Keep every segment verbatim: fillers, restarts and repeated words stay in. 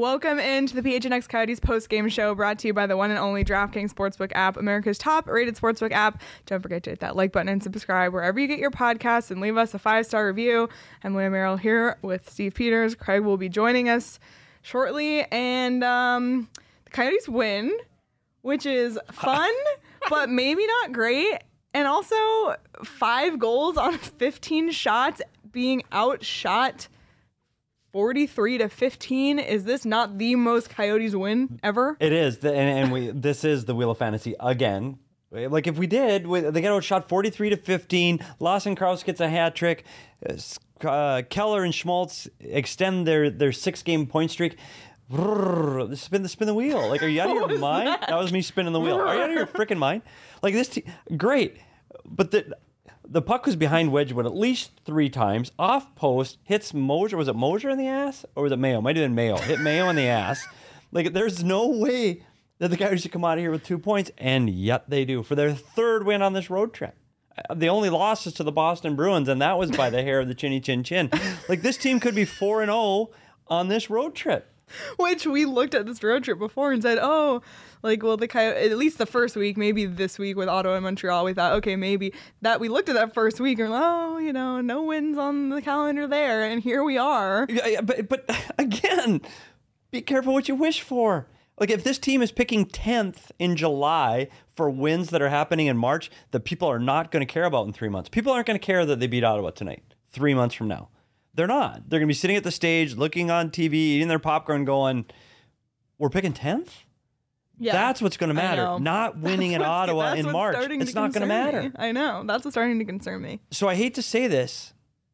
Welcome into the P H N X Coyotes post-game show brought to you by the one and only DraftKings Sportsbook app, America's top-rated sportsbook app. Don't forget to hit that like button and subscribe wherever you get your podcasts and leave us a five-star review. I'm Leah Merrill here with Steve Peters. Craig will be joining us shortly, and um, the Coyotes win, which is fun, but maybe not great. And also five goals on fifteen shots, being outshot forty-three to fifteen. Is this not the most Coyotes win ever? It is, the, and, and we this is the Wheel of Fantasy again. Like if we did, we, they get outshot forty-three to fifteen. Lawson Krause gets a hat trick. Uh, Keller and Schmaltz extend their their six game point streak. Brrr, spin the spin the wheel. Like, are you out of your mind? That? that was me spinning the wheel. Are you out of your freaking mind? Like this, te- great, but the. The puck was behind Wedgwood at least three times. Off post, hits Mosier. Was it Mosier in the ass? Or was it Mayo? Might have been Mayo. Hit Mayo in the ass. Like, there's no way that the Coyotes should come out of here with two points. And yet they do. For their third win on this road trip. The only loss is to the Boston Bruins, and that was by the hair of the chinny chin chin. Like, this team could be four and oh on this road trip. Which we looked at this road trip before and said, oh, like, well, the Coyotes, at least the first week, maybe this week with Ottawa and Montreal, we thought, okay, maybe that we looked at that first week and, oh, you know, no wins on the calendar there, and here we are. Yeah, yeah, but but again, be careful what you wish for. Like, if this team is picking tenth in July for wins that are happening in March that people are not going to care about in three months, people aren't going to care that they beat Ottawa tonight, three months from now. They're not. They're going to be sitting at the stage, looking on T V, eating their popcorn, going, we're picking tenth? Yeah, that's what's going to matter. Not winning in Ottawa in March. It's not going to matter. Me. I know. That's what's starting to concern me. So I hate to say this,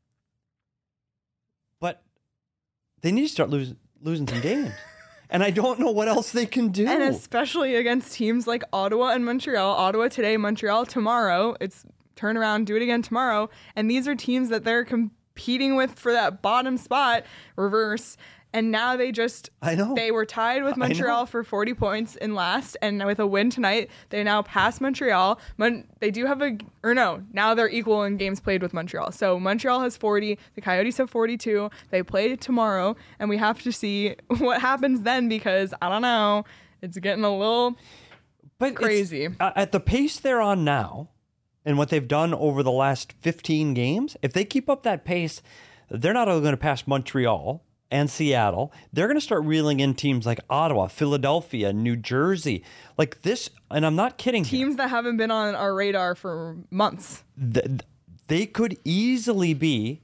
but they need to start losing losing some games. And I don't know what else they can do. And especially against teams like Ottawa and Montreal. Ottawa today, Montreal tomorrow. It's turn around, do it again tomorrow. And these are teams that they're competing with for that bottom spot, reverse. And now they just, I know. They were tied with Montreal for forty points in last. And with a win tonight, they now pass Montreal. Mon- they do have a, or no, now they're equal in games played with Montreal. So Montreal has forty, the Coyotes have forty-two. They play tomorrow, and we have to see what happens then because, I don't know, it's getting a little but crazy. Uh, at the pace they're on now, and what they've done over the last fifteen games, if they keep up that pace, they're not only going to pass Montreal and Seattle, they're going to start reeling in teams like Ottawa, Philadelphia, New Jersey. Like this, and I'm not kidding. Teams here. that haven't been on our radar for months. The, they could easily be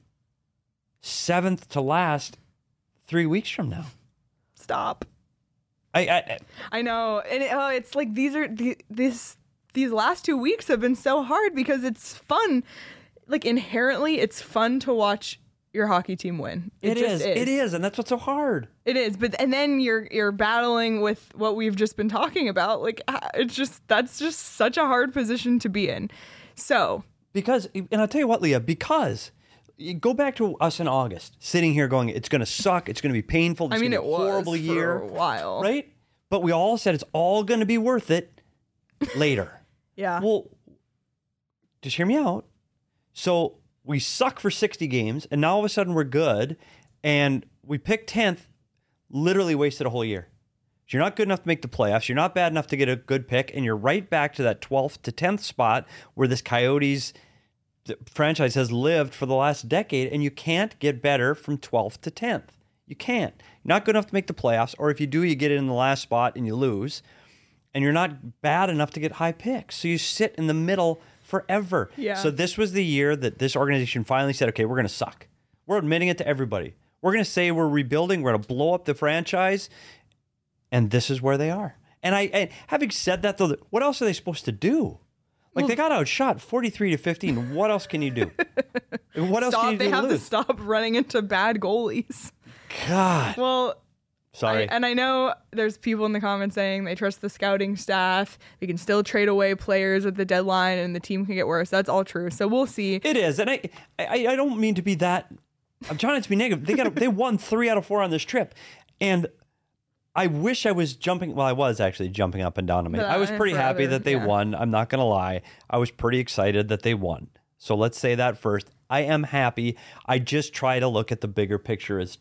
seventh to last three weeks from now. Stop. I I, I know. And it, oh, it's like these are, the, this, these last two weeks have been so hard because it's fun. Like inherently, it's fun to watch your hockey team win. It, it is. is. It is, and that's what's so hard. It is, but and then you're you're battling with what we've just been talking about. Like it's just that's just such a hard position to be in. So because, and I'll tell you what, Leah, because you go back to us in August, sitting here going, it's going to suck, it's going to be painful. It's I mean, gonna it be a horrible was year, for a while, right? But we all said it's all going to be worth it later. Yeah. Well, just hear me out. So we suck for sixty games, and now all of a sudden we're good, and we picked tenth, literally wasted a whole year. So you're not good enough to make the playoffs. You're not bad enough to get a good pick, and you're right back to that twelfth to tenth spot where this Coyotes franchise has lived for the last decade, and you can't get better from twelfth to tenth. You can't. You're not good enough to make the playoffs, or if you do, you get it in the last spot and you lose, and you're not bad enough to get high picks. So you sit in the middle forever. Yeah. So this was the year that this organization finally said, okay, we're going to suck. We're admitting it to everybody. We're going to say we're rebuilding. We're going to blow up the franchise. And this is where they are. And I, and having said that, though, what else are they supposed to do? Like, well, they got outshot forty-three to fifteen. What else can you do? What else stop, can you do? They to have lose? to stop running into bad goalies. God. Well, sorry. I, and I know there's people in the comments saying they trust the scouting staff. They can still trade away players at the deadline, and the team can get worse. That's all true. So we'll see. It is, and I, I, I don't mean to be that. I'm trying not to be negative. They got, they won three out of four on this trip, and I wish I was jumping. Well, I was actually jumping up and down on me. I was pretty happy that they yeah. won. I'm not gonna lie. I was pretty excited that they won. So let's say that first. I am happy. I just try to look at the bigger picture as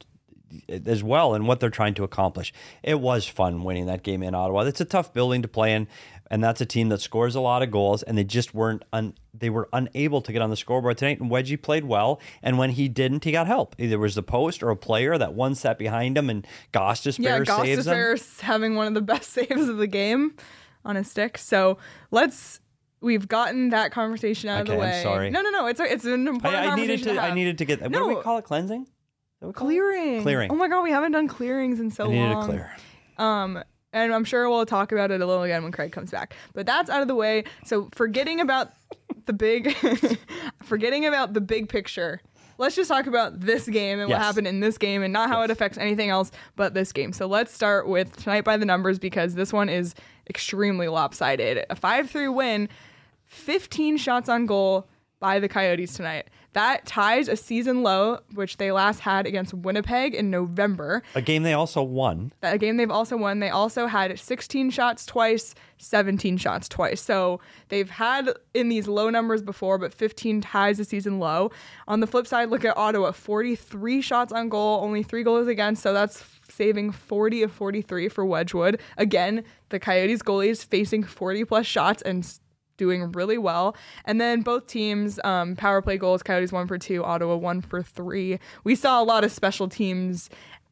as well in what they're trying to accomplish. It was fun winning that game in Ottawa. It's a tough building to play in, and that's a team that scores a lot of goals, and they just weren't un, they were unable to get on the scoreboard tonight. And Wedgie played well, and when he didn't, he got help. Either it was the post or a player that one sat behind him, and Gostisbehere yeah, saves him. Gostisbehere having one of the best saves of the game on a stick. So let's. We've gotten that conversation out okay, of the way. I'm sorry. No, no, no. It's a, it's an important I, I conversation needed to, to have. I needed to get. What No. do we call it? Cleansing? Is that what we call it? Clearing. Clearing. Oh my god, we haven't done clearings in so I needed long. to clear. Um, and I'm sure we'll talk about it a little again when Craig comes back. But that's out of the way. So forgetting about the big, forgetting about the big picture. Let's just talk about this game and Yes. what happened in this game and not how Yes. it affects anything else but this game. So let's start with tonight by the numbers because this one is extremely lopsided. A five three win, fifteen shots on goal by the Coyotes tonight. That ties a season low, which they last had against Winnipeg in November. A game they also won. A game they've also won. They also had sixteen shots twice, seventeen shots twice. So they've had in these low numbers before, but fifteen ties a season low. On the flip side, look at Ottawa, forty-three shots on goal, only three goals against. So that's saving forty of forty-three for Wedgwood. Again, the Coyotes goalies facing forty plus shots and doing really well. And then both teams, um, power play goals, Coyotes one for two, Ottawa one for three. We saw a lot of special teams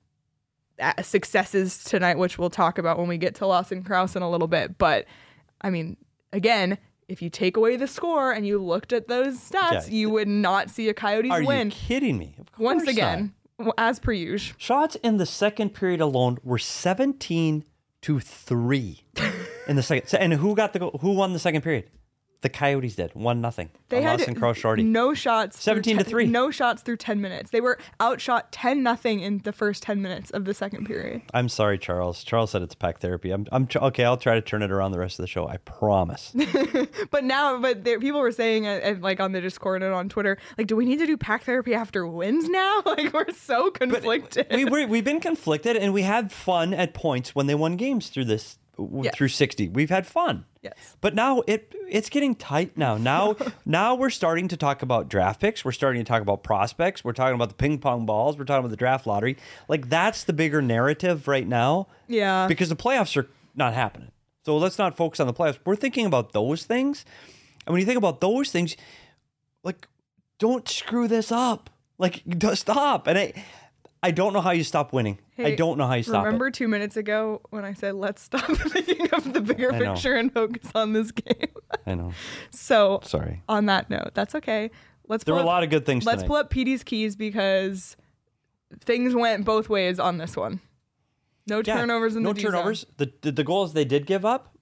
successes tonight, which we'll talk about when we get to Lawson Crouse in a little bit. But I mean, again, if you take away the score and you looked at those stats, Yeah. you would not see a Coyotes Are win. you kidding me? Of Once course again, not. as per usual. Shots in the second period alone were seventeen to three in the second. And who got the goal? Who won the second period? The Coyotes did. One nothing. They had Lawson Crouse shorty. no shots. through seventeen to ten three. No shots through ten minutes. They were outshot ten nothing in the first ten minutes of the second period. I'm sorry, Charles. Charles said it's pack therapy. I'm, I'm tr- okay. I'll try to turn it around the rest of the show. I promise. But now, but there, people were saying, uh, uh, like on the Discord and on Twitter, like, do we need to do pack therapy after wins now? Like, we're so conflicted. we we're, we've been conflicted, and we had fun at points when they won games through this Yes. through sixty. We've had fun. Yes. But now it it's getting tight now. Now now we're starting to talk about draft picks. We're starting to talk about prospects. We're talking about the ping pong balls. We're talking about the draft lottery. Like that's the bigger narrative right now. Yeah. Because the playoffs are not happening. So let's not focus on the playoffs. We're thinking about those things. And when you think about those things, like don't screw this up. Like don't stop. And I I don't know how you stop winning. Hey, I don't know how you stop remember it. two minutes ago when I said, let's stop thinking of the bigger I know. picture and focus on this game? I know. So, Sorry. on that note, that's okay. Let's There pull were a up, lot of good things Let's tonight. pull up P D's keys because things went both ways on this one. No Yeah, turnovers in no the D zone. turnovers. The, the the goals they did give up,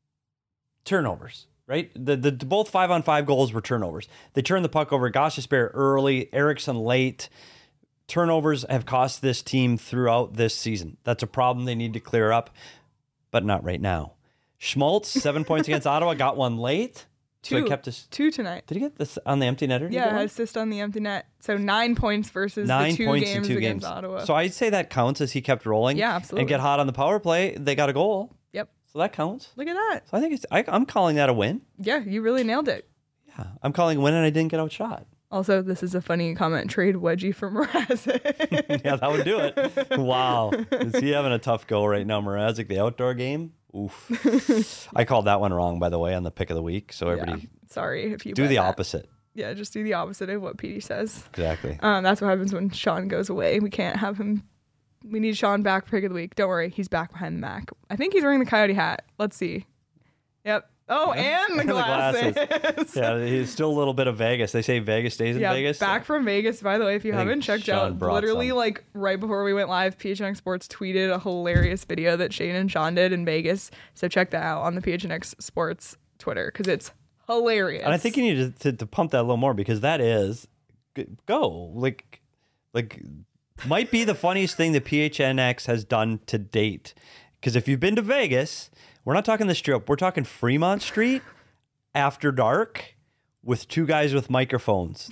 turnovers, right? The, the the both five on five goals were turnovers. They turned the puck over. Gostisbehere early, Eriksson late. Turnovers have cost this team throughout this season. That's a problem they need to clear up, but not right now. Schmaltz, seven points against Ottawa, got one late. So Two. he kept us. Two tonight. Did he get this on the empty netter? Did he Yeah, get one? assist on the empty net. So nine points versus Nine the two points games in two against games. Ottawa. So I'd say that counts as he kept rolling. Yeah, absolutely. And get hot on the power play. They got a goal. Yep. So that counts. Look at that. So I think it's. I, I'm calling that a win. Yeah, you really nailed it. Yeah, I'm calling a win, and I didn't get outshot. Also, this is a funny comment. Trade Wedgie for Mrazek. Yeah, that would do it. Wow, is he having a tough go right now, Mrazek? The outdoor game. Oof. I called that one wrong, by the way, on the pick of the week. So everybody, Yeah. Sorry if you do bet the that. opposite. Yeah, just do the opposite of what P D says. Exactly. Um, that's what happens when Sean goes away. We can't have him. We need Sean back for pick of the week. Don't worry, he's back behind the Mac. I think he's wearing the Coyote hat. Let's see. Yep. Oh, Yeah. and the And the glasses. glasses. Yeah, he's still a little bit of Vegas. They say Vegas stays in Yeah, Vegas. back from Vegas, by the way, if you I think haven't checked Sean out, brought literally some. like right before we went live, P H N X Sports tweeted a hilarious video that Shane and Sean did in Vegas. So check that out on the P H N X Sports Twitter because it's hilarious. And I think you need to, to, to pump that a little more because that is g- go like like might be the funniest thing that P H N X has done to date. Because if you've been to Vegas, we're not talking the Strip. We're talking Fremont Street after dark with two guys with microphones.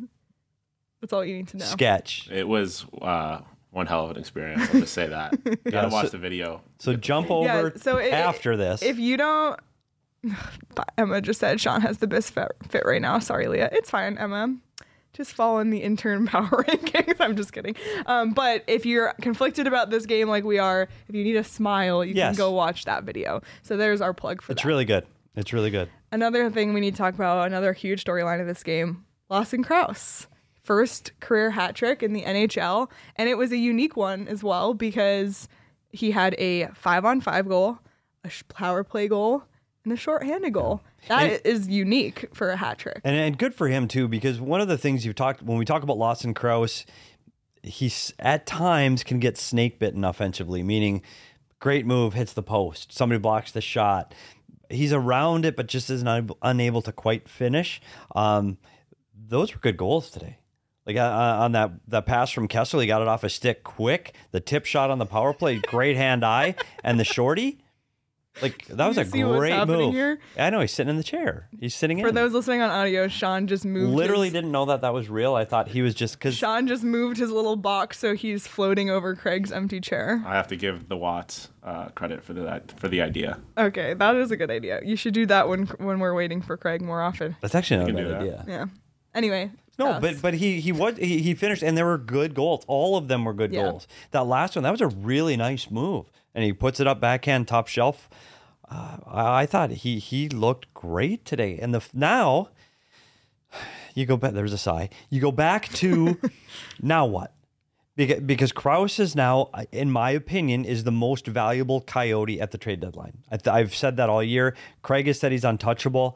That's all you need to know. Sketch. It was uh, one hell of an experience. I'll just say that. You gotta Yeah, watch so- the video. So jump over Yeah, so it- after this. If you don't, Emma just said Sean has the best fit, fit right now. Sorry, Leah. It's fine, Emma. just fall in the intern power rankings. I'm just kidding. Um, but if you're conflicted about this game like we are, if you need a smile, you Yes. can go watch that video. So there's our plug for It's that. really good. It's really good. Another thing we need to talk about, another huge storyline of this game, Lawson Krause. First career hat trick in the N H L. And it was a unique one as well because he had a five on five goal, a sh- power play goal, and a shorthanded goal. That And- is unique for a hat trick. And, and good for him too, because one of the things you've talked when we talk about Lawson Krause, he's at times can get snake bitten offensively, meaning great move, hits the post, somebody blocks the shot. He's around it, but just is not unable to quite finish. Um, those were good goals today. Like uh, on that that pass from Kessler, he got it off a stick quick. The tip shot on the power play, great hand eye, and the shorty. Like that was You a see what's great happening move. here? I know he's sitting in the chair. He's sitting in. For those listening on audio, Sean just moved. Literally his, didn't know that that was real. I thought he was just because. Sean just moved his little box so he's floating over Craig's empty chair. I have to give the Watts uh, credit for the for the idea. Okay, that is a good idea. You should do that when when we're waiting for Craig more often. That's actually not a can bad do that. idea. Yeah. Anyway. No, Krause. but but he he was he, he finished and there were good goals. All of them were good Yeah. goals. That last one, that was a really nice move, and he puts it up backhand top shelf. Uh, I, I thought he he looked great today. And the now you go back. There's a sigh. You go back to now what? Because because Krause is now, in my opinion, is the most valuable Coyote at the trade deadline. I th- I've said that all year. Craig has said he's untouchable.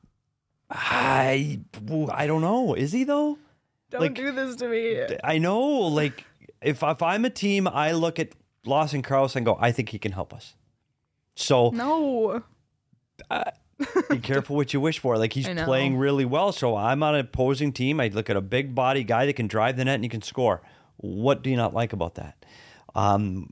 I I don't know. Is he though? Don't like- do this to me. I know. Like if if I'm a team, I look at Lawson Krause and go, I think he can help us. So No. be careful what you wish for. Like he's I know. playing really well. So I'm on an opposing team. I look at a big body guy that can drive the net and he can score. What do you not like about that? Um,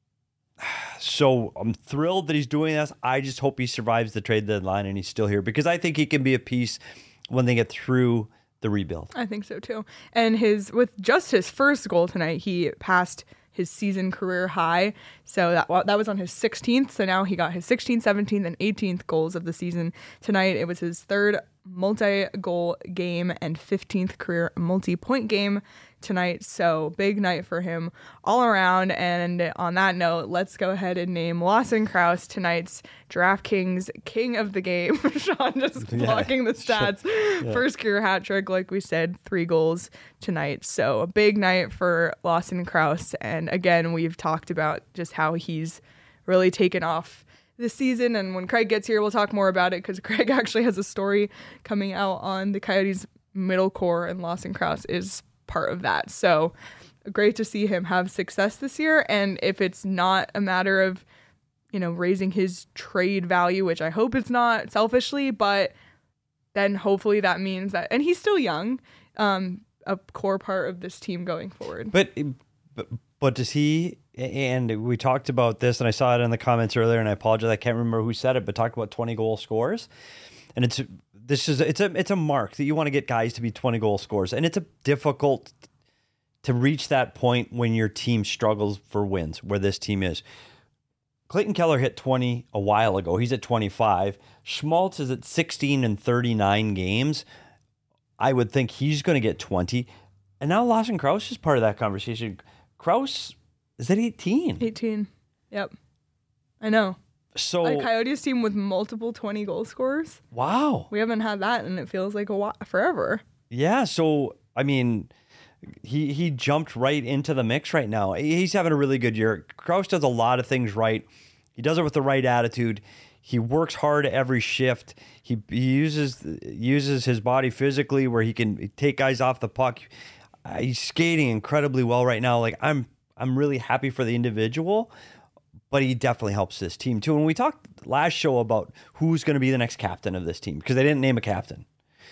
so I'm thrilled that he's doing this. I just hope he survives the trade deadline and he's still here because I think he can be a piece when they get through the rebuild. I think so too. And his with just his first goal tonight, he passed his season career high. So that well, that was on his sixteenth. So now he got his sixteenth, seventeenth, and eighteenth goals of the season tonight. It was his third multi-goal game and fifteenth career multi-point game tonight. So big night for him all around. And on that note, let's go ahead and name Lawson Krause tonight's DraftKings King of the Game. Sean just Yeah. blocking the stats. First career hat trick, like we said, three goals tonight. So a big night for Lawson Krause. And again, we've talked about just how he's really taken off this season. And when Craig gets here, we'll talk more about it because Craig actually has a story coming out on the Coyotes middle core, and Lawson Krause is part of that. So great to see him have success this year. And if it's not a matter of, you know, raising his trade value, which I hope it's not selfishly, but then hopefully that means that, and he's still young, um, a core part of this team going forward. But, but but does he? And we talked about this, and I saw it in the comments earlier, and I apologize, I can't remember who said it, but talked about twenty goal scores, and it's this is it's a it's a mark that you want to get guys to be twenty goal scores, and it's a difficult to reach that point when your team struggles for wins, where this team is. Clayton Keller hit twenty a while ago. He's at twenty-five. Schmaltz is at sixteen and thirty-nine games. I would think he's going to get twenty. And now Lawson Krause is part of that conversation. Krause is at eighteen. eighteen. Yep. I know. So, A Coyotes team with multiple twenty goal scorers. wow. We haven't had that, and it feels like a while, forever. Yeah, so, I mean, he he jumped right into the mix right now. He's having a really good year. Krause does a lot of things right. He does it with the right attitude. He works hard every shift. He, he uses uses his body physically where he can take guys off the puck. Uh, he's skating incredibly well right now. Like I'm I'm really happy for the individual, but he definitely helps this team too. And we talked last show about who's going to be the next captain of this team because they didn't name a captain.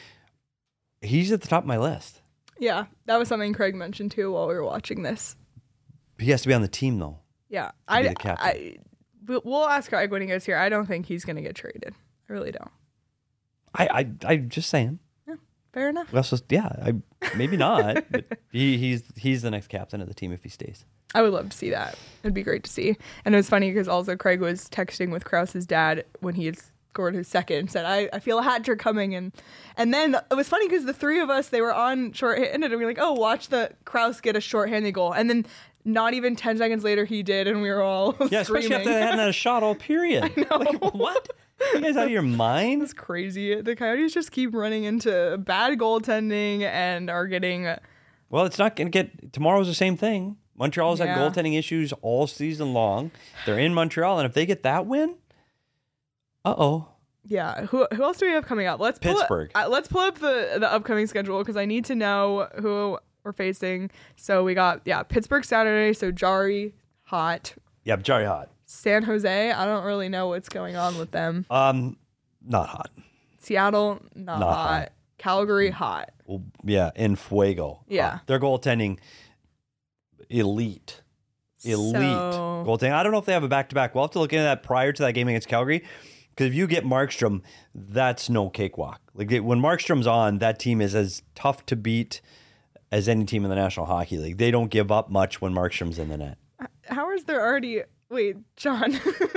He's at the top of my list. Yeah, that was something Craig mentioned too while we were watching this. He has to be on the team though. Yeah, be I, the captain. I, we'll we'll ask Craig when he gets here. I don't think he's going to get traded. I really don't. I I I'm just saying. Fair enough. Well, so, yeah, I maybe not. But he, he's he's the next captain of the team if he stays. I would love to see that. It'd be great to see. And it was funny because also Craig was texting with Krause's dad when he scored his second, said, I, I feel a hat trick coming. And and then it was funny because the three of us, they were on shorthanded, and we were like, oh, watch the Kraus get a shorthanded goal. And then not even ten seconds later, he did, and we were all Yeah, screaming. especially after they hadn't had a shot all period. I know. Like, what? You guys out of your mind? It's crazy. The Coyotes just keep running into bad goaltending and are getting... Well, it's not going to get... Tomorrow's the same thing. Montreal's Yeah. had goaltending issues all season long. They're in Montreal, and if they get that win, uh-oh. Yeah. Who who else do we have coming up? Let's pull Pittsburgh. Up, uh, let's pull up the, the upcoming schedule because I need to know who we're facing. So we got, yeah, Pittsburgh Saturday. So Jari, hot. Yeah, Jari hot. San Jose, I don't really know what's going on with them. Um, not hot. Seattle, not, Not hot. hot. Calgary, hot. Well, yeah, in fuego. Yeah. Hot. Their goaltending, elite. Elite So- goaltending. I don't know if they have a back-to-back. We'll have to look into that prior to that game against Calgary. Because if you get Markstrom, that's no cakewalk. Like they, when Markstrom's on, that team is as tough to beat as any team in the National Hockey League. They don't give up much when Markstrom's in the net. How is there already... Wait, John.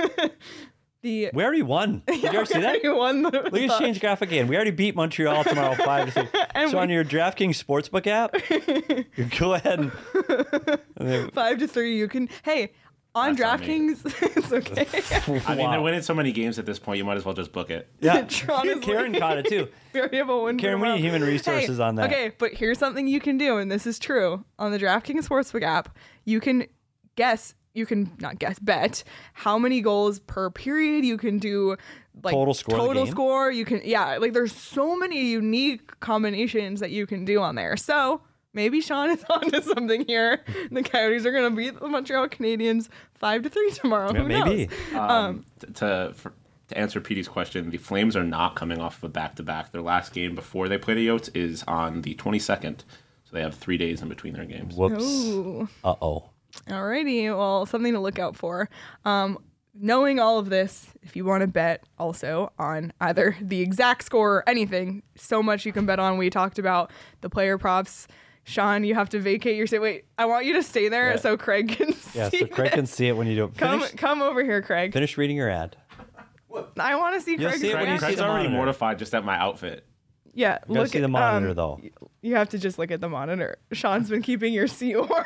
the We already won. Did you ever see that? already won the, Look at change graphic again. We already beat Montreal tomorrow five to six. And So we- on your DraftKings Sportsbook app, you go ahead and, and then- five to three. You can... Hey, on That's on me. DraftKings, it's okay. I mean, Wow. they're winning so many games at this point, you might as well just book it. Yeah, Tron is Karen like- caught it too. We already have a win. Karen, for we need tomorrow. human resources Hey, on that. Okay, but here's something you can do, and this is true. On the DraftKings Sportsbook app, you can guess, you can not guess, bet how many goals per period. You can do like Total score of the Total game? score. You can, yeah, like there's so many unique combinations that you can do on there. So maybe Sean is onto something here. The Coyotes are going to beat the Montreal Canadiens five to three tomorrow. Yeah, Who maybe. knows? Um, t- to for, to answer Petey's question, the Flames are not coming off of a back-to-back. Their last game before they play the Yotes is on the twenty-second, so they have three days in between their games. Whoops. Ooh. Uh oh. Alrighty, well, something to look out for. Um, knowing all of this, if you want to bet also on either the exact score or anything, so much you can bet on. We talked about the player props. Sean, you have to vacate your seat. Wait, I want you to stay there Yeah. so Craig can see Yeah, so Craig it. can see it when you do it. Come, Finish, come over here, Craig. finish reading your ad. I want to see You'll Craig's see it when you reaction. see Craig's the already monitor. mortified just at my outfit. Yeah, You gotta look see at the monitor um, though. You have to just look at the monitor. Sean's been keeping your seat warm.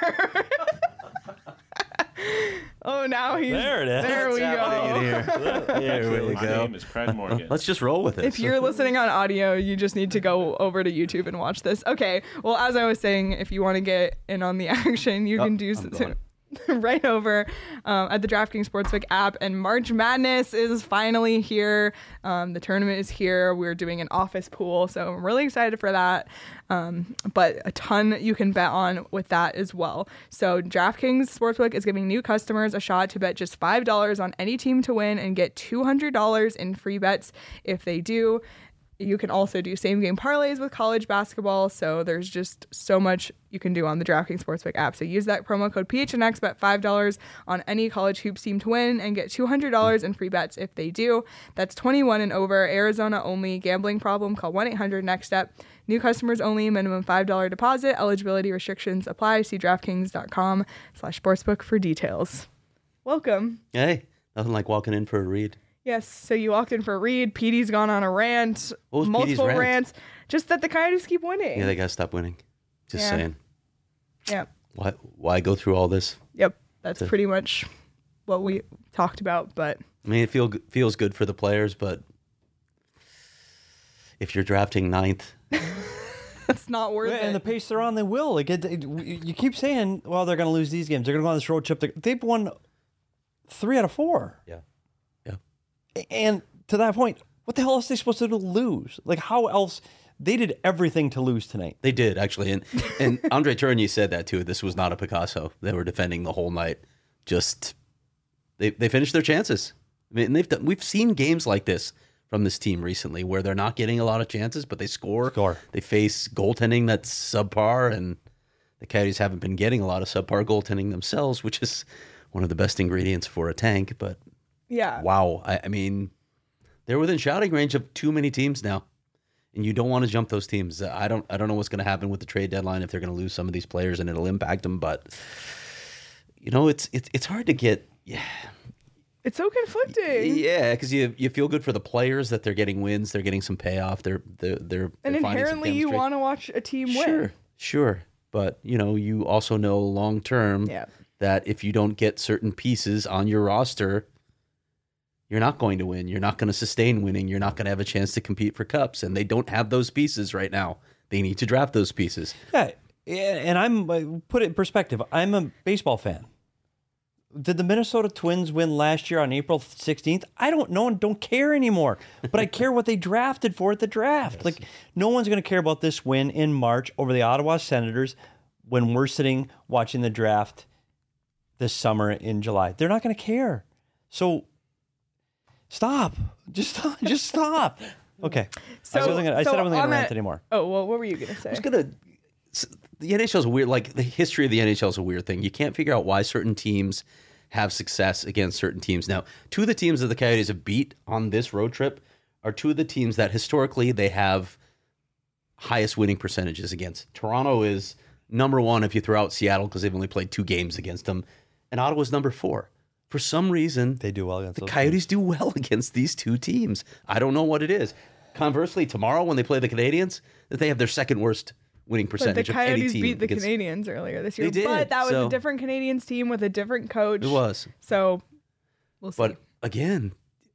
Oh, now he's There it is. There we go. Here we My go. name is Craig Morgan. Let's just roll with it. If you're listening on audio, you just need to go over to YouTube and watch this. Okay. Well, as I was saying, if you want to get in on the action, you Oh, can do I'm so. going. Right over um, at the DraftKings Sportsbook app, and March Madness is finally here. Um, the tournament is here. We're doing an office pool, so I'm really excited for that. Um, but a ton you can bet on with that as well. So DraftKings Sportsbook is giving new customers a shot to bet just five dollars on any team to win and get two hundred dollars in free bets if they do. You can also do same game parlays with college basketball. So there's just so much you can do on the DraftKings Sportsbook app. So use that promo code P H N X, bet five dollars on any college hoops team to win and get two hundred dollars in free bets if they do. That's twenty-one and over, Arizona only. Gambling problem, call one eight hundred next step. New customers only, minimum five dollars deposit. Eligibility restrictions apply. See DraftKings.com slash sportsbook for details. Welcome. Hey, nothing like walking in for a read. Yes, so you walked in for a read. Petey's gone on a rant, What was Petey's multiple rant? rants, just that the Coyotes keep winning. Yeah, they gotta stop winning. Just Yeah. saying. yeah, Why? Why go through all this? yep, that's To- pretty much what we talked about. But I mean, it feel feels good for the players, but if you're drafting ninth, it's not worth And the it. pace they're on, they will. Like it, it- you keep saying, well, they're going to lose these games. They're going to go on this road trip. They- They've won three out of four. yeah, yeah. And to that point, what the hell else are they supposed to do to lose? Like, how else? They did everything to lose tonight. They did actually, and and Andre Tourigny said that too. This was not a Picasso. They were defending the whole night. Just they they finished their chances. I mean, and they've done, we've seen games like this from this team recently where they're not getting a lot of chances, but they score. Score. They face goaltending that's subpar, and the Coyotes haven't been getting a lot of subpar goaltending themselves, which is one of the best ingredients for a tank. But Yeah, wow, I, I mean, they're within shouting range of too many teams now. And you don't want to jump those teams. I don't. I don't know what's going to happen with the trade deadline if they're going to lose some of these players and it'll impact them. But you know, it's it's it's hard to get. Yeah, It's so conflicting. Yeah, because you you feel good for the players that they're getting wins, they're getting some payoff, they're they're they're, And they're finding some inherently, you chemistry. want to watch a team win. Sure, sure, but you know, you also know long term Yeah. that if you don't get certain pieces on your roster, you're not going to win. You're not going to sustain winning. You're not going to have a chance to compete for cups, and they don't have those pieces right now. They need to draft those pieces. Yeah, and I'm uh, put it in perspective. I'm a baseball fan. Did the Minnesota Twins win last year on April sixteenth? I don't know and don't care anymore. But I care what they drafted for at the draft. Yes. Like, no one's going to care about this win in March over the Ottawa Senators when we're sitting watching the draft this summer in July. They're not going to care. So stop. Just stop. Just stop. Okay. So, I, wasn't gonna, I so said I wasn't going to that, rant anymore. Oh, well, what were you going to say? I was going to... The N H L is weird. Like, the history of the N H L is a weird thing. You can't figure out why certain teams have success against certain teams. Now, two of the teams that the Coyotes have beat on this road trip are two of the teams that historically they have highest winning percentages against. Toronto is number one if you throw out Seattle because they've only played two games against them, and Ottawa's number four. For some reason, they do well against the those Coyotes teams. do well against these two teams. I don't know what it is. Conversely, tomorrow when they play the Canadiens, that they have their second worst winning But percentage the of any Coyotes team. beat the against... Canadiens earlier this year. They did, but that was so... a different Canadiens team with a different coach. It was. So we'll see. But again,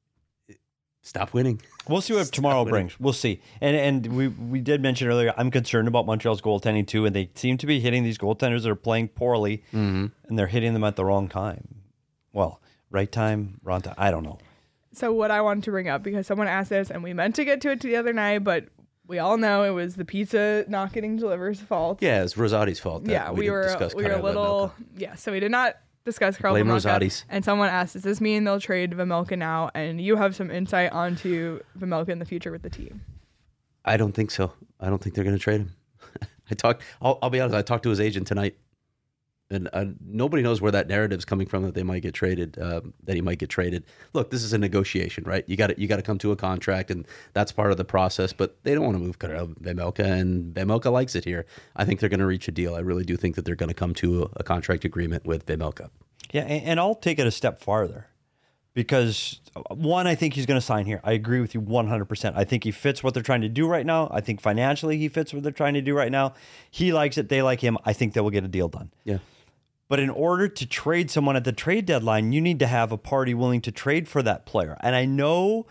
stop winning. We'll see what Stop tomorrow winning. brings. We'll see. And and we we did mention earlier, I'm concerned about Montreal's goaltending too, and they seem to be hitting these goaltenders that are playing poorly, Mm-hmm. and they're hitting them at the wrong time. Well, right time, wrong time. I don't know. So what I wanted to bring up, because someone asked this, and we meant to get to it the other night, but we all know it was the pizza not getting delivered's fault. Yeah, it's Rosati's fault. that yeah, we, didn't were discuss we were a Karel little Vejmelka. yeah. So we did not discuss Karel Blame Vejmelka. Rosati's. And someone asked, "Does this mean they'll trade Vejmelka now?" And you have some insight onto Vejmelka in the future with the team. I don't think so. I don't think they're going to trade him. I talked. I'll, I'll be honest. I talked to his agent tonight, and uh, nobody knows where that narrative's coming from that they might get traded. Um, that he might get traded. Look, this is a negotiation, right? You got to you got to come to a contract, and that's part of the process. But they don't want to move Karel Vejmelka, and Vejmelka likes it here. I think they're going to reach a deal. I really do think that they're going to come to a, a contract agreement with Vejmelka. Yeah, and, and I'll take it a step farther. Because, one, I think he's going to sign here. I agree with you one hundred percent. I think he fits what they're trying to do right now. I think financially he fits what they're trying to do right now. He likes it. They like him. I think they will get a deal done. Yeah. But in order to trade someone at the trade deadline, you need to have a party willing to trade for that player. And I know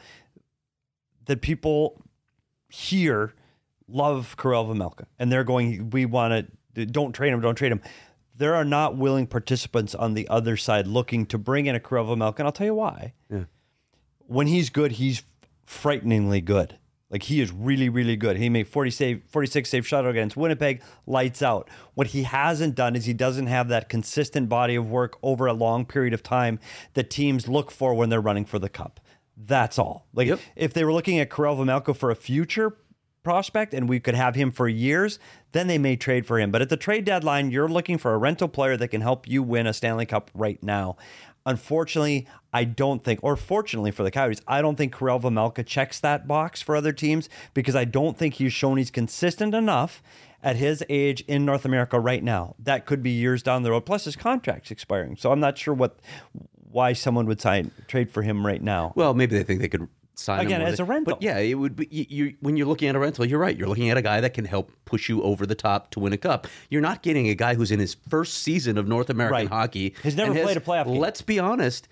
that people here love Karel Vejmelka. And they're going, we want to, don't trade him, don't trade him. There are not willing participants on the other side looking to bring in a Karel Vejmelka, and I'll tell you why. Yeah. When he's good, he's frighteningly good. Like, he is really, really good. He made forty save, forty-six save shutout against Winnipeg, lights out. What he hasn't done is he doesn't have that consistent body of work over a long period of time that teams look for when they're running for the cup. That's all. Like, Yep. if they were looking at Karel Vejmelka for a future prospect and we could have him for years, then they may trade for him. But at the trade deadline, you're looking for a rental player that can help you win a Stanley Cup right now. Unfortunately, I don't think, or fortunately for the Coyotes, I don't think Karel Vejmelka checks that box for other teams because I don't think he's shown he's consistent enough at his age in North America right now. That could be years down the road. Plus, his contract's expiring, so I'm not sure what why someone would sign trade for him right now. Well, maybe they think they could sign Again, him as a rental. But yeah, it would be you, you. When you're looking at a rental, you're right. You're looking at a guy that can help push you over the top to win a cup. You're not getting a guy who's in his first season of North American Right. hockey. He's never and played a playoff game. Let's be honest.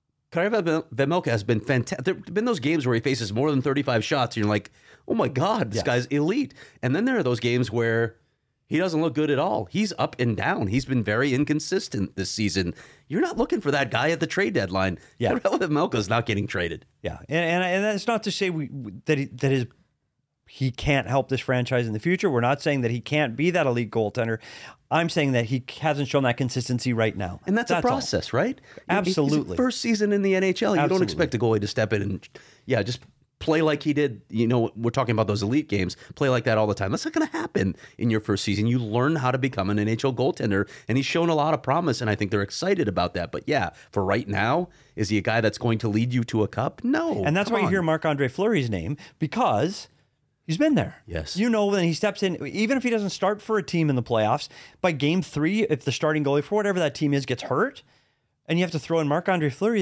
Karel Vejmelka has been fantastic. There have been those games where he faces more than thirty-five shots, and you're like, oh my God, this Yes. guy's elite. And then there are those games where he doesn't look good at all. He's up and down. He's been very inconsistent this season. You're not looking for that guy at the trade deadline. Yeah. Karel Vejmelka's not getting traded. Yeah, and and, and that's not to say we that he, that his he can't help this franchise in the future. We're not saying that he can't be that elite goaltender. I'm saying that he hasn't shown that consistency right now, And that's, a all. process, right? Absolutely. He's first season in the N H L. You Absolutely. don't expect a goalie to step in and, yeah, just play like he did. You know, we're talking about those elite games. Play like that all the time. That's not going to happen in your first season. You learn how to become an N H L goaltender, and he's shown a lot of promise, and I think they're excited about that. But yeah, for right now, is he a guy that's going to lead you to a cup? No. And that's Come why you on. hear Marc-Andre Fleury's name, because he's been there. Yes. You know, when he steps in, even if he doesn't start for a team in the playoffs, by game three, if the starting goalie for whatever that team is gets hurt, and you have to throw in Marc-Andre Fleury, you go,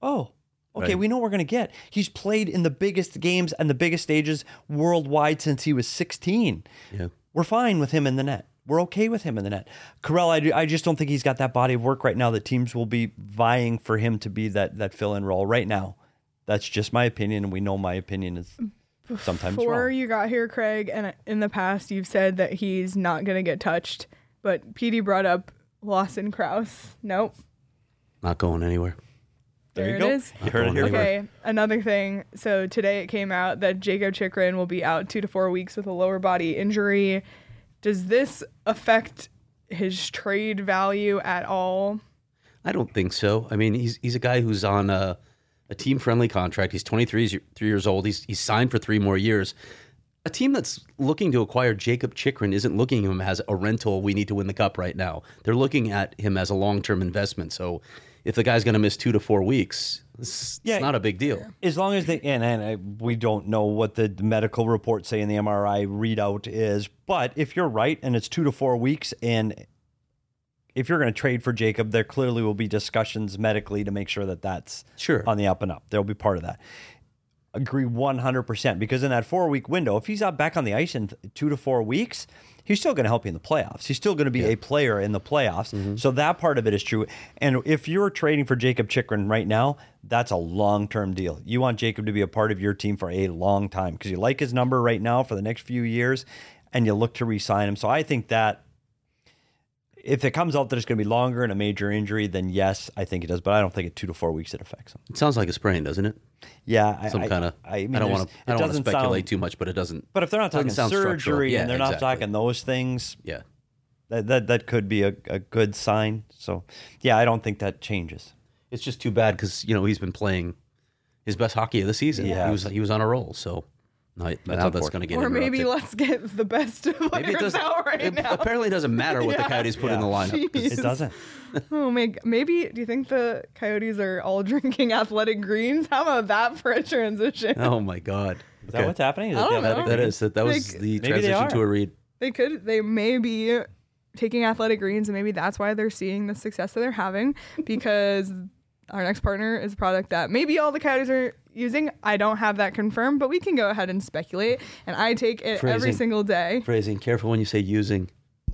Oh, okay, Right. we know what we're going to get. He's played in the biggest games and the biggest stages worldwide since he was sixteen. Yeah. We're fine with him in the net. We're okay with him in the net. Carell, I, do- I just don't think he's got that body of work right now that teams will be vying for him to be that that fill-in role right now. That's just my opinion, and we know my opinion is sometimes Before wrong. you got here, Craig, and in the past you've said that he's not going to get touched, but P D brought up Lawson Krause. Nope. Not going anywhere. There There you it go. is. You heard it here first. Okay, another thing. So today it came out that Jacob Chikrin will be out two to four weeks with a lower body injury. Does this affect his trade value at all? I don't think so. I mean, he's he's a guy who's on a, a team friendly contract. He's twenty-three years- three years old. He's he's signed for three more years. A team that's looking to acquire Jacob Chikrin isn't looking at him as a rental. We need to win the cup right now. They're looking at him as a long term investment. So if the guy's going to miss two to four weeks, it's, Yeah. it's not a big deal. As long as they, and, and I, we don't know what the medical reports say in the M R I readout is, but if you're right and it's two to four weeks, and if you're going to trade for Jacob, there clearly will be discussions medically to make sure that that's Sure. on the up and up. There'll be part of that. Agree one hundred percent, because in that four week window, if he's out back on the ice in th- two to four weeks, he's still going to help you in the playoffs. He's still going to be a player in the playoffs. So that part of it is true. And if you're trading for Jacob Chikrin right now, that's a long term deal. You want Jacob to be a part of your team for a long time because you like his number right now for the next few years, and you look to re-sign him. So I think that if it comes out that it's going to be longer and a major injury, then yes, I think it does. But I don't think at two to four weeks it affects him. It sounds like a sprain, doesn't it? Yeah, I, Some I- kind of. I, I, mean, don't there's- want to. it I don't want to doesn't speculate sound- too much, but it doesn't. But if they're not doesn't talking sound structural. surgery Yeah, and they're not exactly. talking those things, Yeah. that that, that could be a, a good sign. So, yeah, I don't think that changes. It's just too bad because you know he's been playing his best hockey of the season. Yeah. He was he was on a roll. So no, now that's unfortunate. going to get Or maybe interrupted. let's get the best Maybe it players doesn't. out right It now. apparently doesn't matter what the Yeah. Coyotes put in the lineup. 'cause Jeez. It doesn't. Oh, my, maybe, do you think the Coyotes are all drinking Athletic Greens? How about that for a transition? Oh my God! Is that what's happening? Is I it the don't know. athletic That green? is that. That was Like, the they transition are. to a read. They could, they may be taking Athletic Greens, and maybe that's why they're seeing the success that they're having, because our next partner is a product that maybe all the Coyotes are using. I don't have that confirmed, but we can go ahead and speculate, and I take it every Phrasing. single day. Phrasing. Careful when you say using.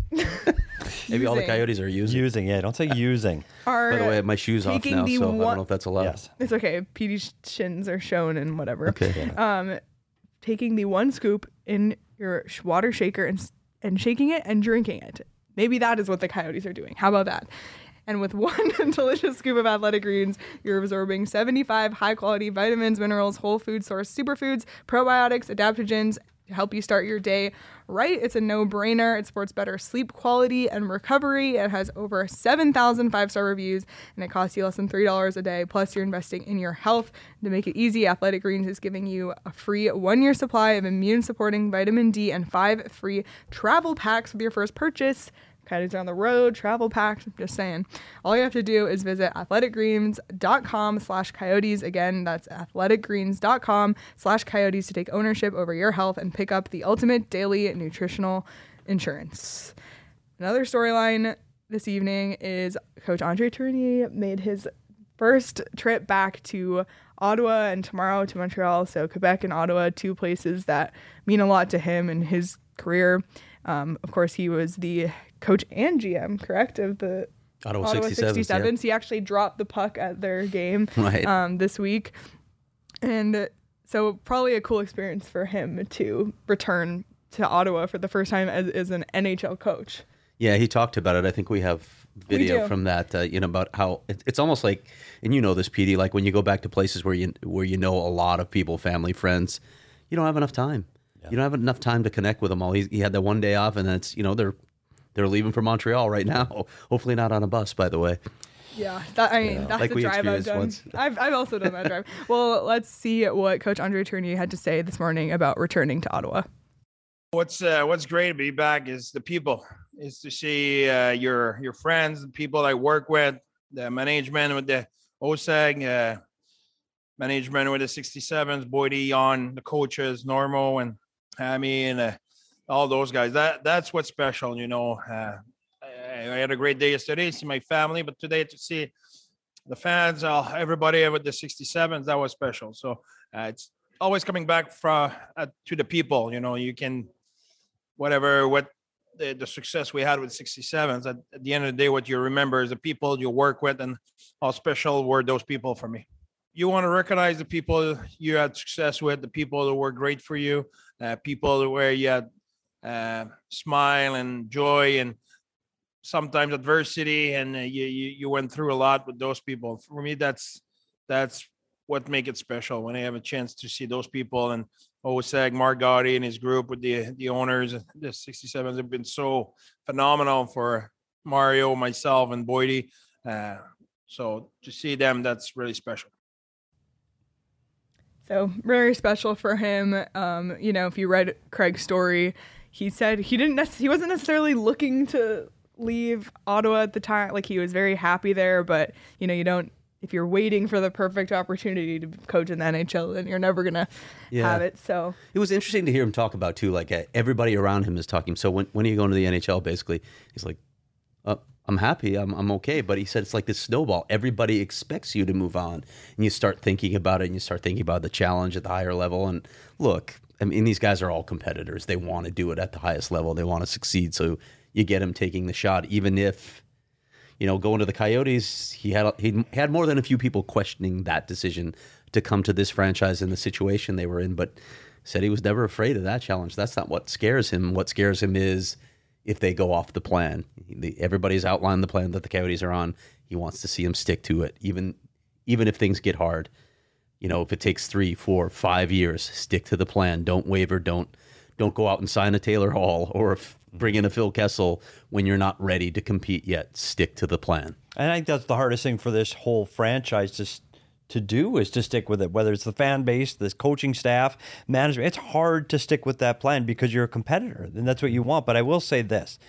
Maybe all the Using. Coyotes are using. Using, yeah, don't say using. Are By the way, I have my shoes off taking now, the so I don't one- know if that's allowed. Yes. It's okay. P D's shins are shown and whatever. Okay. Um, taking the one scoop in your sh- water shaker and s- and shaking it and drinking it. Maybe that is what the Coyotes are doing. How about that? And with one delicious scoop of Athletic Greens, you're absorbing seventy-five high-quality vitamins, minerals, whole food source superfoods, probiotics, adaptogens to help you start your day right. It's a no-brainer. It supports better sleep quality and recovery. It has over seven thousand five-star reviews, and it costs you less than three dollars a day. Plus, you're investing in your health. To make it easy, Athletic Greens is giving you a free one-year supply of immune-supporting vitamin D and five free travel packs with your first purchase. Coyotes are on the road, travel packs, I'm just saying. All you have to do is visit athleticgreens.com slash coyotes. Again, that's athleticgreens.com slash coyotes to take ownership over your health and pick up the ultimate daily nutritional insurance. Another storyline this evening is Coach Andre Tourigny made his first trip back to Ottawa and tomorrow to Montreal. So Quebec and Ottawa, two places that mean a lot to him in his career. Um, of course, he was the coach and G M, correct, of the Ottawa, Ottawa sixty-seven. sixty-sevens. He actually dropped the puck at their game Right. um, this week. And so probably a cool experience for him to return to Ottawa for the first time as, as an N H L coach. Yeah, he talked about it. I think we have video do. from that. Uh, you know about how it, it's almost like, and you know this, P D. Like when you go back to places where you where you know a lot of people, family, friends, you don't have enough time. You don't have enough time to connect with them all. He, he had that one day off, and then it's you know they're they're leaving for Montreal right now. Hopefully not on a bus, by the way. Yeah, that, I mean, Yeah. that's Like a we drive I've experienced done. once. I've, I've also done that drive. Well, let's see what Coach Andre Tourigny had to say this morning about returning to Ottawa. What's uh, what's great to be back is the people, is to see uh, your your friends, the people I work with, the management with the O S A G, uh, management with the sixty-sevens, Boydie on the coaches, Normo and Hammy and uh, all those guys. That that's what's special, you know. Uh, I, I had a great day yesterday, see my family, but today to see the fans, uh, everybody with the sixty-sevens, that was special. So uh, it's always coming back from uh, to the people. You know, you can whatever what the, the success we had with sixty-sevens. At, at the end of the day, what you remember is the people you work with, and how special were those people for me. You want to recognize the people you had success with, the people that were great for you, uh, people where you had uh, smile and joy and sometimes adversity, and uh, you, you you went through a lot with those people. For me, that's that's what make it special when I have a chance to see those people. And Osag, Mark Gotti and his group with the the owners, the sixty-sevens have been so phenomenal for Mario, myself, and Boydie. Uh, so to see them, that's really special. So very special for him. Um, you know, if you read Craig's story, he said he didn't nec- he wasn't necessarily looking to leave Ottawa at the time. Like, he was very happy there, but you know, you don't, if you're waiting for the perfect opportunity to coach in the N H L, then you're never gonna Yeah. have it. So It was interesting to hear him talk about too. Like uh, everybody around him is talking. So when when are you going to the N H L? Basically, he's like, uh, "I'm happy. I'm I'm okay." But he said it's like this snowball. Everybody expects you to move on, and you start thinking about it, and you start thinking about the challenge at the higher level. And look, I mean, these guys are all competitors. They want to do it at the highest level. They want to succeed. So you get him taking the shot, even if, you know, going to the Coyotes, he had he had more than a few people questioning that decision to come to this franchise in the situation they were in, but said he was never afraid of that challenge. That's not what scares him. What scares him is if they go off the plan. The, everybody's outlined the plan that the Coyotes are on. He wants to see them stick to it, even even if things get hard. You know, if it takes three, four, five years, stick to the plan. Don't waver. Don't don't go out and sign a Taylor Hall or if, bring in a Phil Kessel when you're not ready to compete yet. Stick to the plan. And I think that's the hardest thing for this whole franchise to to do is to stick with it. Whether it's the fan base, this coaching staff, management, it's hard to stick with that plan because you're a competitor, and that's what you want. But I will say this: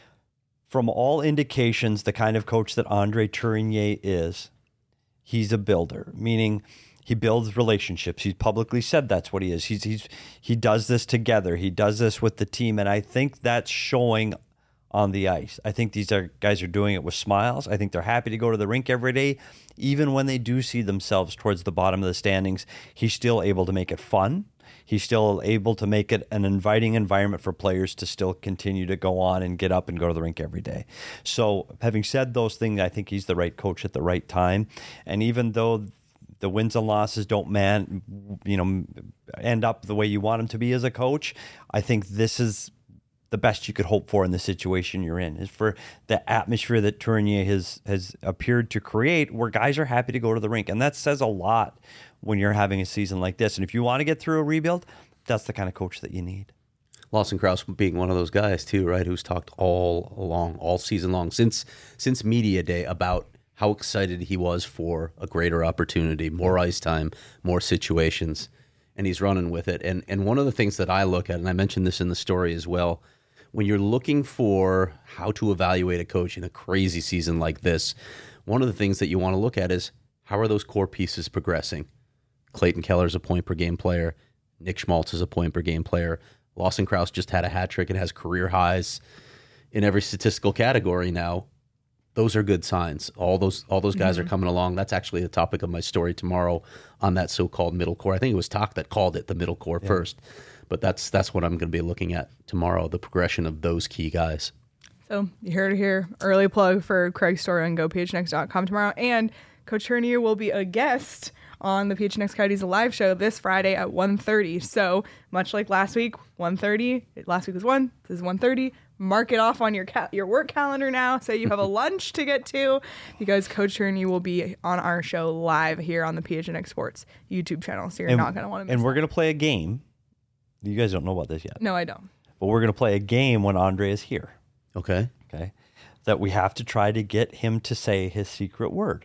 from all indications, the kind of coach that Andre Tourigny is, he's a builder, meaning he builds relationships. He's publicly said that's what he is. He's he's he does this together. He does this with the team, and I think that's showing on the ice. I think these are guys are doing it with smiles. I think they're happy to go to the rink every day, even when they do see themselves towards the bottom of the standings. He's still able to make it fun. He's still able to make it an inviting environment for players to still continue to go on and get up and go to the rink every day. So having said those things, I think he's the right coach at the right time. And even though the wins and losses don't man, you know, end up the way you want them to be as a coach, I think this is the best you could hope for in the situation you're in, is for the atmosphere that Tourigny has has appeared to create, where guys are happy to go to the rink. And that says a lot when you're having a season like this. And if you want to get through a rebuild, that's the kind of coach that you need. Lawson Crouse being one of those guys too, right? Who's talked all along, all season long, since since media day, about how excited he was for a greater opportunity, more ice time, more situations, and he's running with it. And and one of the things that I look at, and I mentioned this in the story as well, when you're looking for how to evaluate a coach in a crazy season like this, one of the things that you want to look at is how are those core pieces progressing? Clayton Keller's a point per game player. Nick Schmaltz is a point per game player. Lawson Crouse just had a hat trick and has career highs in every statistical category now. Those are good signs. All those all those guys mm-hmm. are coming along. That's actually the topic of my story tomorrow on that so-called middle core. I think it was Talk that called it the middle core yeah. first. But that's that's what I'm going to be looking at tomorrow, the progression of those key guys. So you heard it here. Early plug for Craig's story on go p h n x dot com tomorrow. And Coach Tourigny will be a guest on the P H N X Coyotes live show this Friday at one thirty. So much like last week, one thirty. Last week was one. This is one thirty. Mark it off on your ca- your work calendar now, so you have a lunch to get to, because Coach Tourigny will be on our show live here on the P H N X Sports YouTube channel. So you're and, not going to want to miss And we're that. going to play a game. You guys don't know about this yet. No, I don't. But we're going to play a game when Andre is here. Okay. Okay. That we have to try to get him to say his secret word.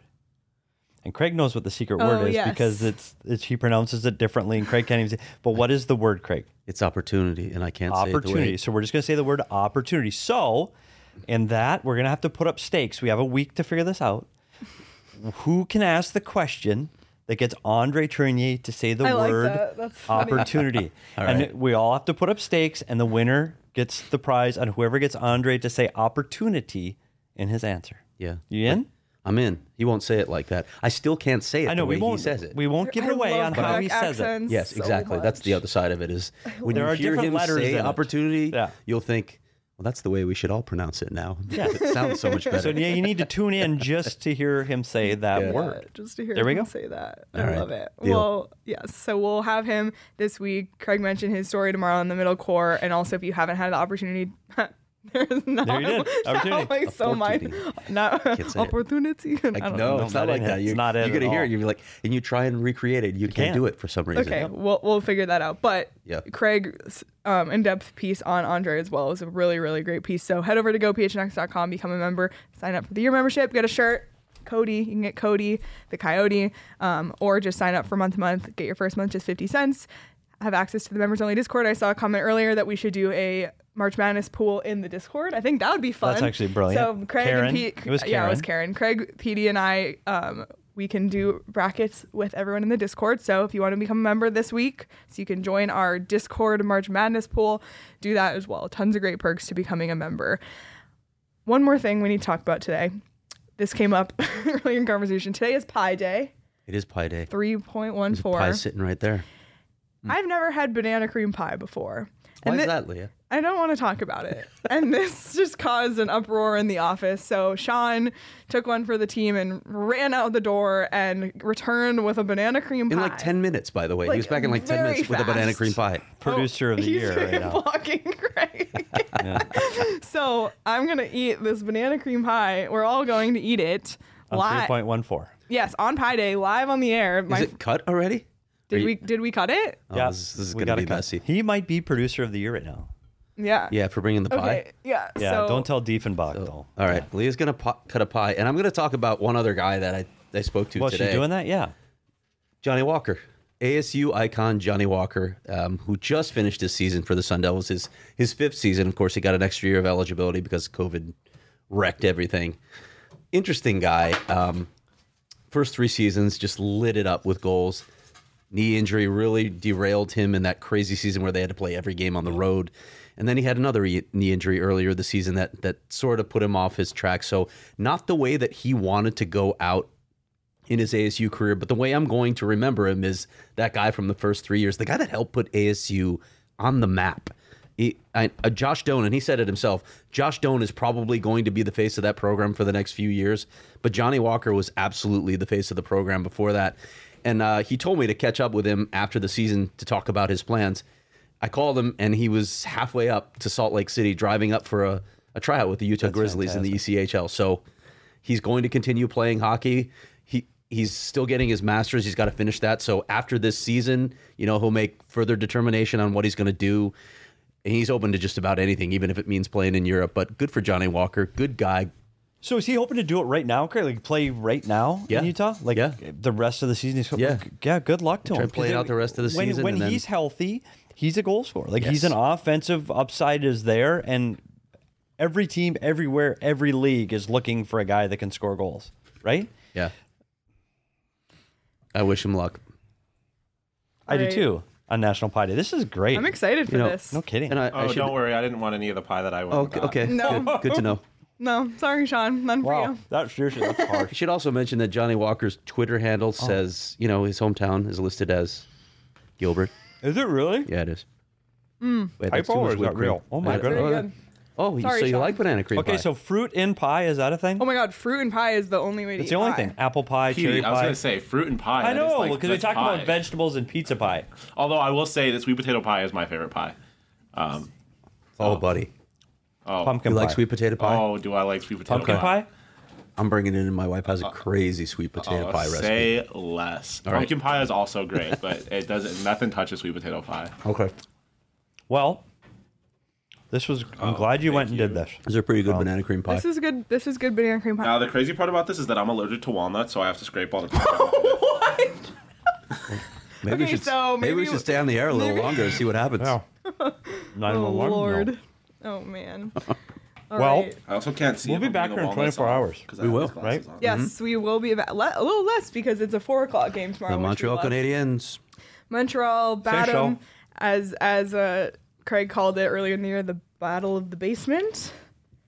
And Craig knows what the secret Oh, word is yes. because it's, it's he pronounces it differently, and Craig can't even say. But what is the word, Craig? It's opportunity, and I can't say it the Opportunity. way. So we're just going to say the word opportunity. So in that, we're going to have to put up stakes. We have a week to figure this out. Who can ask the question that gets Andre Tourigny to say the I like word that. That's funny. opportunity? All and right. we all have to put up stakes, and the winner gets the prize, and whoever gets Andre to say opportunity in his answer. Yeah. You in? I'm in. He won't say it like that. I still can't say it I know the way we won't. he says it. We won't give I it away love on how Quebec he says it. accents Yes, so exactly. That's the much. other side of it. Is when There you are hear different him letters say in it. opportunity, Yeah. you'll think, well, that's the way we should all pronounce it now. Yeah. It sounds so much better. So yeah, you need to tune in just to hear him say that Yeah. word. Yeah, just to hear There we him go. say that. All I right. love it. Deal. Well, yes. So we'll have him this week. Craig mentioned his story tomorrow in the middle core. And also, if you haven't had the opportunity, there's not, There you did. not Opportunity. like so my Opportunity. not say it. opportunity. I Like, don't no, know. it's not not like in that. it. You're, It's not in you're at gonna hear all. it. You're like, and you try and recreate it. You, can't can't. do it for some reason. Okay, we'll we'll figure that out. But Yeah. Craig's um, in-depth piece on Andre as well is a really really great piece. So head over to go p h n x dot com, become a member, sign up for the year membership, get a shirt. Cody, you can get Cody the Coyote, um, or just sign up for month to month. Get your first month just fifty cents. Have access to the members only Discord. I saw a comment earlier that we should do a March Madness pool in the Discord. I think that would be fun. That's actually brilliant. So Craig Karen? and Pete, It was yeah, it was Karen. Karen. Craig, Petey, and I, um, we can do brackets with everyone in the Discord. So if you want to become a member this week, so you can join our Discord March Madness pool, do that as well. Tons of great perks to becoming a member. One more thing we need to talk about today. This came up earlier in conversation. Today is Pi Day, It is Pie Day. three point one There's a four. pie sitting right there. I've never had banana cream pie before. Why And is thi- that, Leah? I don't want to talk about it. And this just caused an uproar in the office. So Sean took one for the team and ran out the door and returned with a banana cream pie. In like ten minutes, by the way. Like, he was back in like ten very minutes with a banana fast. cream pie. Producer of the He's year right now. blocking Craig. So I'm going to eat this banana cream pie. We're all going to eat it. On three Live. point one four. Yes, on Pi Day, live on the air. My, Is it cut already? did Are you- we did we cut it? Oh, Yeah, this, this is we going to gotta be cut. messy. He might be producer of the year right now. Yeah. Yeah, for bringing the pie. Okay. Yeah. Yeah, so, don't tell Diefenbach though. All right, Leah's going to po- cut a pie. And I'm going to talk about one other guy that I, I spoke to Well, today. she's doing that. Yeah. Johnny Walker, A S U icon Johnny Walker, um, who just finished his season for the Sun Devils, his his fifth season. Of course, he got an extra year of eligibility because COVID wrecked everything. Interesting guy. Um, first three seasons just lit it up with goals. Knee injury really derailed him in that crazy season where they had to play every game on the road. And then he had another e- knee injury earlier this season that that sort of put him off his track. So not the way that he wanted to go out in his A S U career, but the way I'm going to remember him is that guy from the first three years, the guy that helped put A S U on the map. He, I, uh, Josh Doan, and he said it himself, Josh Doan is probably going to be the face of that program for the next few years, but Johnny Walker was absolutely the face of the program before that. And uh, he told me to catch up with him after the season to talk about his plans. I called him, and he was halfway up to Salt Lake City, driving up for a, a tryout with the Utah That's Grizzlies in the fantastic. E C H L. So he's going to continue playing hockey. He He's still getting his master's. He's got to finish that. So after this season, you know, he'll make further determination on what he's going to do. And he's open to just about anything, even if it means playing in Europe. But good for Johnny Walker. Good guy. So is he hoping to do it right now, Craig? Like play right now Yeah. in Utah? Like Yeah. the rest of the season? He's, Yeah. Yeah. Good luck to Try him. to play it 'Cause out the rest of the when, season When and then- he's healthy, he's a goal scorer. Like he's Yes. an offensive upside is there, and every team, everywhere, every league is looking for a guy that can score goals, right? Yeah. I wish him luck. I do Right. too. On National Pie Day, this is great. I'm excited for You know, this. No kidding. And I, Oh, I should, don't worry. I didn't want any of the pie that I went Oh, and okay. got. okay. No. Good, good to know. No, sorry, Sean. None for Wow, you. that's seriously that's I harsh. should also mention that Johnny Walker's Twitter handle says, you know, his hometown is listed as Gilbert. Is it really? Yeah, it is. Mm. Wait, that's too Typo or much is whipped that cream. real? Oh my Uh, goodness. Very oh, good. Oh, Sorry, so you Sean. like banana cream Okay, pie? so fruit in pie is that a thing? Oh my God, fruit and pie is the only way to It's eat the only pie. thing. Apple pie, Petey, cherry I was pie. gonna say fruit and pie. I that is know like- because we that's talked pie. about vegetables and pizza pie. Although I will say that sweet potato pie is my favorite pie. Um, oh, buddy. oh, Pumpkin You pie. like sweet potato pie? Oh, do I like sweet potato Pumpkin pie? I'm bringing it in. My wife has a crazy sweet potato Oh, pie recipe. say less. All right. Pumpkin pie is also great, but it doesn't. Nothing touches sweet potato pie. Okay. Well, this was. I'm Oh, glad you thank went and you. did this. Is there pretty good banana cream pie? This is good. This is good banana cream pie. Now the crazy part about this is that I'm allergic to walnuts, so I have to scrape all the pie off of it. What? maybe we Okay, should, so maybe we maybe- should stay on the air a little maybe- longer and see what happens. Not even Oh alarm, no. Lord. Oh man. All Well, right. I also can't see. We'll if be I'm back putting here a in walnut twenty-four on, hours. 'cause I We have will, these glasses right? on. Yes, we will be back. Le- a little less because it's a four o'clock game tomorrow. The which we Montreal love. Canadiens. Montreal Say Batum, so. as as uh, Craig called it earlier in the year, the Battle of the Basement.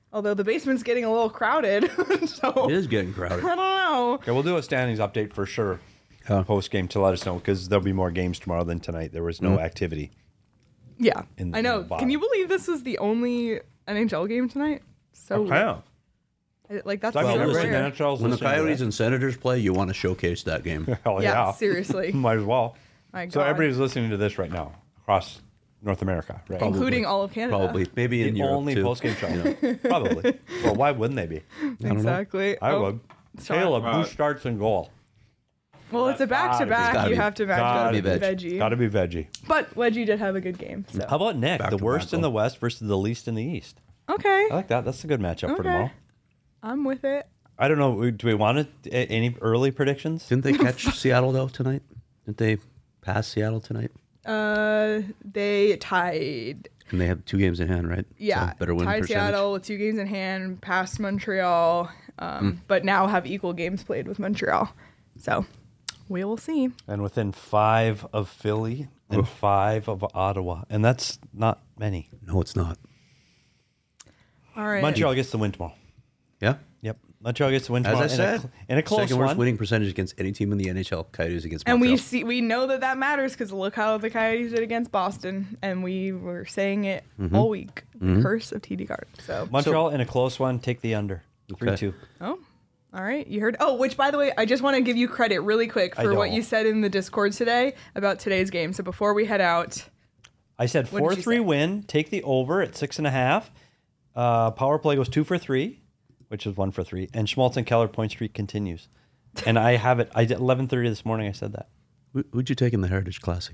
Although the basement's getting a little crowded, so It is getting crowded. I don't know. Okay, we'll do a standings update for sure post game to let us know because there'll be more games tomorrow than tonight. There was no Mm-hmm. activity. Yeah, In I know. the bottom. Can you believe this was the only N H L game tonight? So Okay. I- like that's So I mean, so everybody in the rare. N H L is When the listening to Coyotes that. and Senators play, you want to showcase that game. Hell Yeah, yeah, seriously. might as well. My God. So everybody's listening to this right now across North America, right? including all of Canada. Probably. Maybe in The Europe only too. post game show. Probably. Well, why wouldn't they be? Exactly. I Oh, would. sorry. Caleb, who Uh, starts in goal? Well, it's a back to back. Gotta You be- have to match gotta up be veg. veggie. Got to be veggie. But Wedgie did have a good game. So. How about Nick? Back the to worst back in the goal. West versus the least in the East. Okay. I like that. That's a good matchup for Okay. tomorrow. I'm with it. I don't know. Do we want to, any early predictions? Didn't they catch Seattle though tonight? Didn't they pass Seattle tonight? Uh, they tied. And they have two games in hand, right? Yeah, So better win tied percentage. Seattle with two games in hand, past Montreal, um, Hmm. but now have equal games played with Montreal. So we will see. And within five of Philly and five of Ottawa. And that's not many. No, it's not. All right. Montreal gets the win tomorrow. Yeah. Yep. Montreal gets the win As tomorrow. I in a said, cl- in a, close second worst one. winning percentage against any team in the N H L. Coyotes against And Montreal. we see, we know that that matters because look how the Coyotes did against Boston, and we were saying it Mm-hmm. all week. The curse of T D Garden. So, Montreal in a close one. Take the under. Okay. three two. oh, all right. You heard. Oh, which by the way, I just want to give you credit really quick I for what don't. you said in the Discord today about today's game. So before we head out, I said What did four you three say? win. Take the over at six and a half. Uh, power play goes two for three, which is one for three. And Schmaltz and Keller point streak continues. And I have it. I did eleven thirty this morning. I said that. Who- Who'd you take in the Heritage Classic?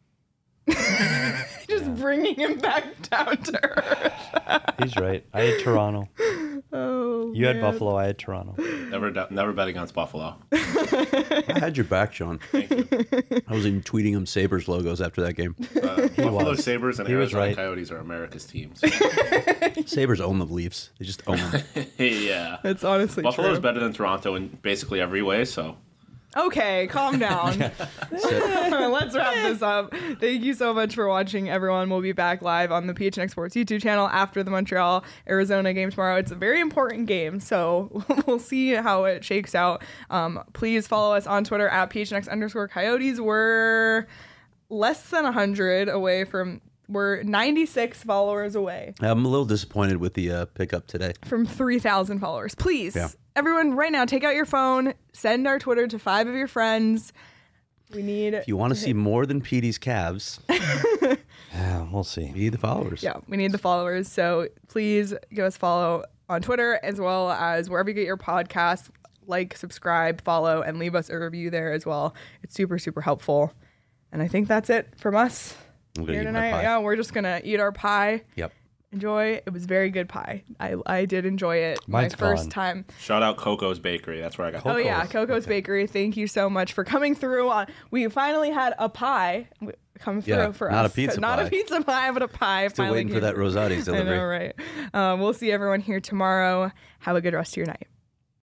just bringing him back down to earth. He's right. I had Toronto. Oh, You had man. Buffalo. I had Toronto. Never, d- never bet against Buffalo. I had your back, Sean. Thank you. I was even tweeting him Sabres logos after that game. Uh, Buffalo was. Sabres and He was Arizona right. Coyotes are America's teams. Sabres own the Leafs. They just own them. yeah. It's honestly Buffalo's true. better than Toronto in basically every way, so Okay, calm down. Let's wrap this up. Thank you so much for watching, everyone. We'll be back live on the P H N X Sports YouTube channel after the Montreal Arizona game tomorrow. It's a very important game, so we'll see how it shakes out. Um, please follow us on Twitter at P H N X underscore Coyotes. We're less than one hundred away from, we're ninety-six followers away I'm a little disappointed with the uh, pickup today. from three thousand followers. Please, Yeah. everyone, right now, take out your phone, send our Twitter to five of your friends. We need. If you want to see more than Petey's calves, Yeah, we'll see. be the followers. Yeah, we need the followers. So please give us a follow on Twitter as well as wherever you get your podcasts. Like, subscribe, follow, and leave us a review there as well. It's super, super helpful. And I think that's it from us I'm gonna here eat my tonight. pie. Yeah, we're just gonna eat our pie. Yep. Enjoy. It was very good pie. I I did enjoy it. Mine's my first gone. time. shout out Coco's Bakery. That's where I got. Oh yeah, Coco's. Coco's Bakery. Thank you so much for coming through. On we finally had a pie come through Yeah, for not a us. pizza not pie. a pizza pie, but a pie. Still finally waiting for came that through. Rosati's I delivery. know, right? Um, we'll see everyone here tomorrow. Have a good rest of your night.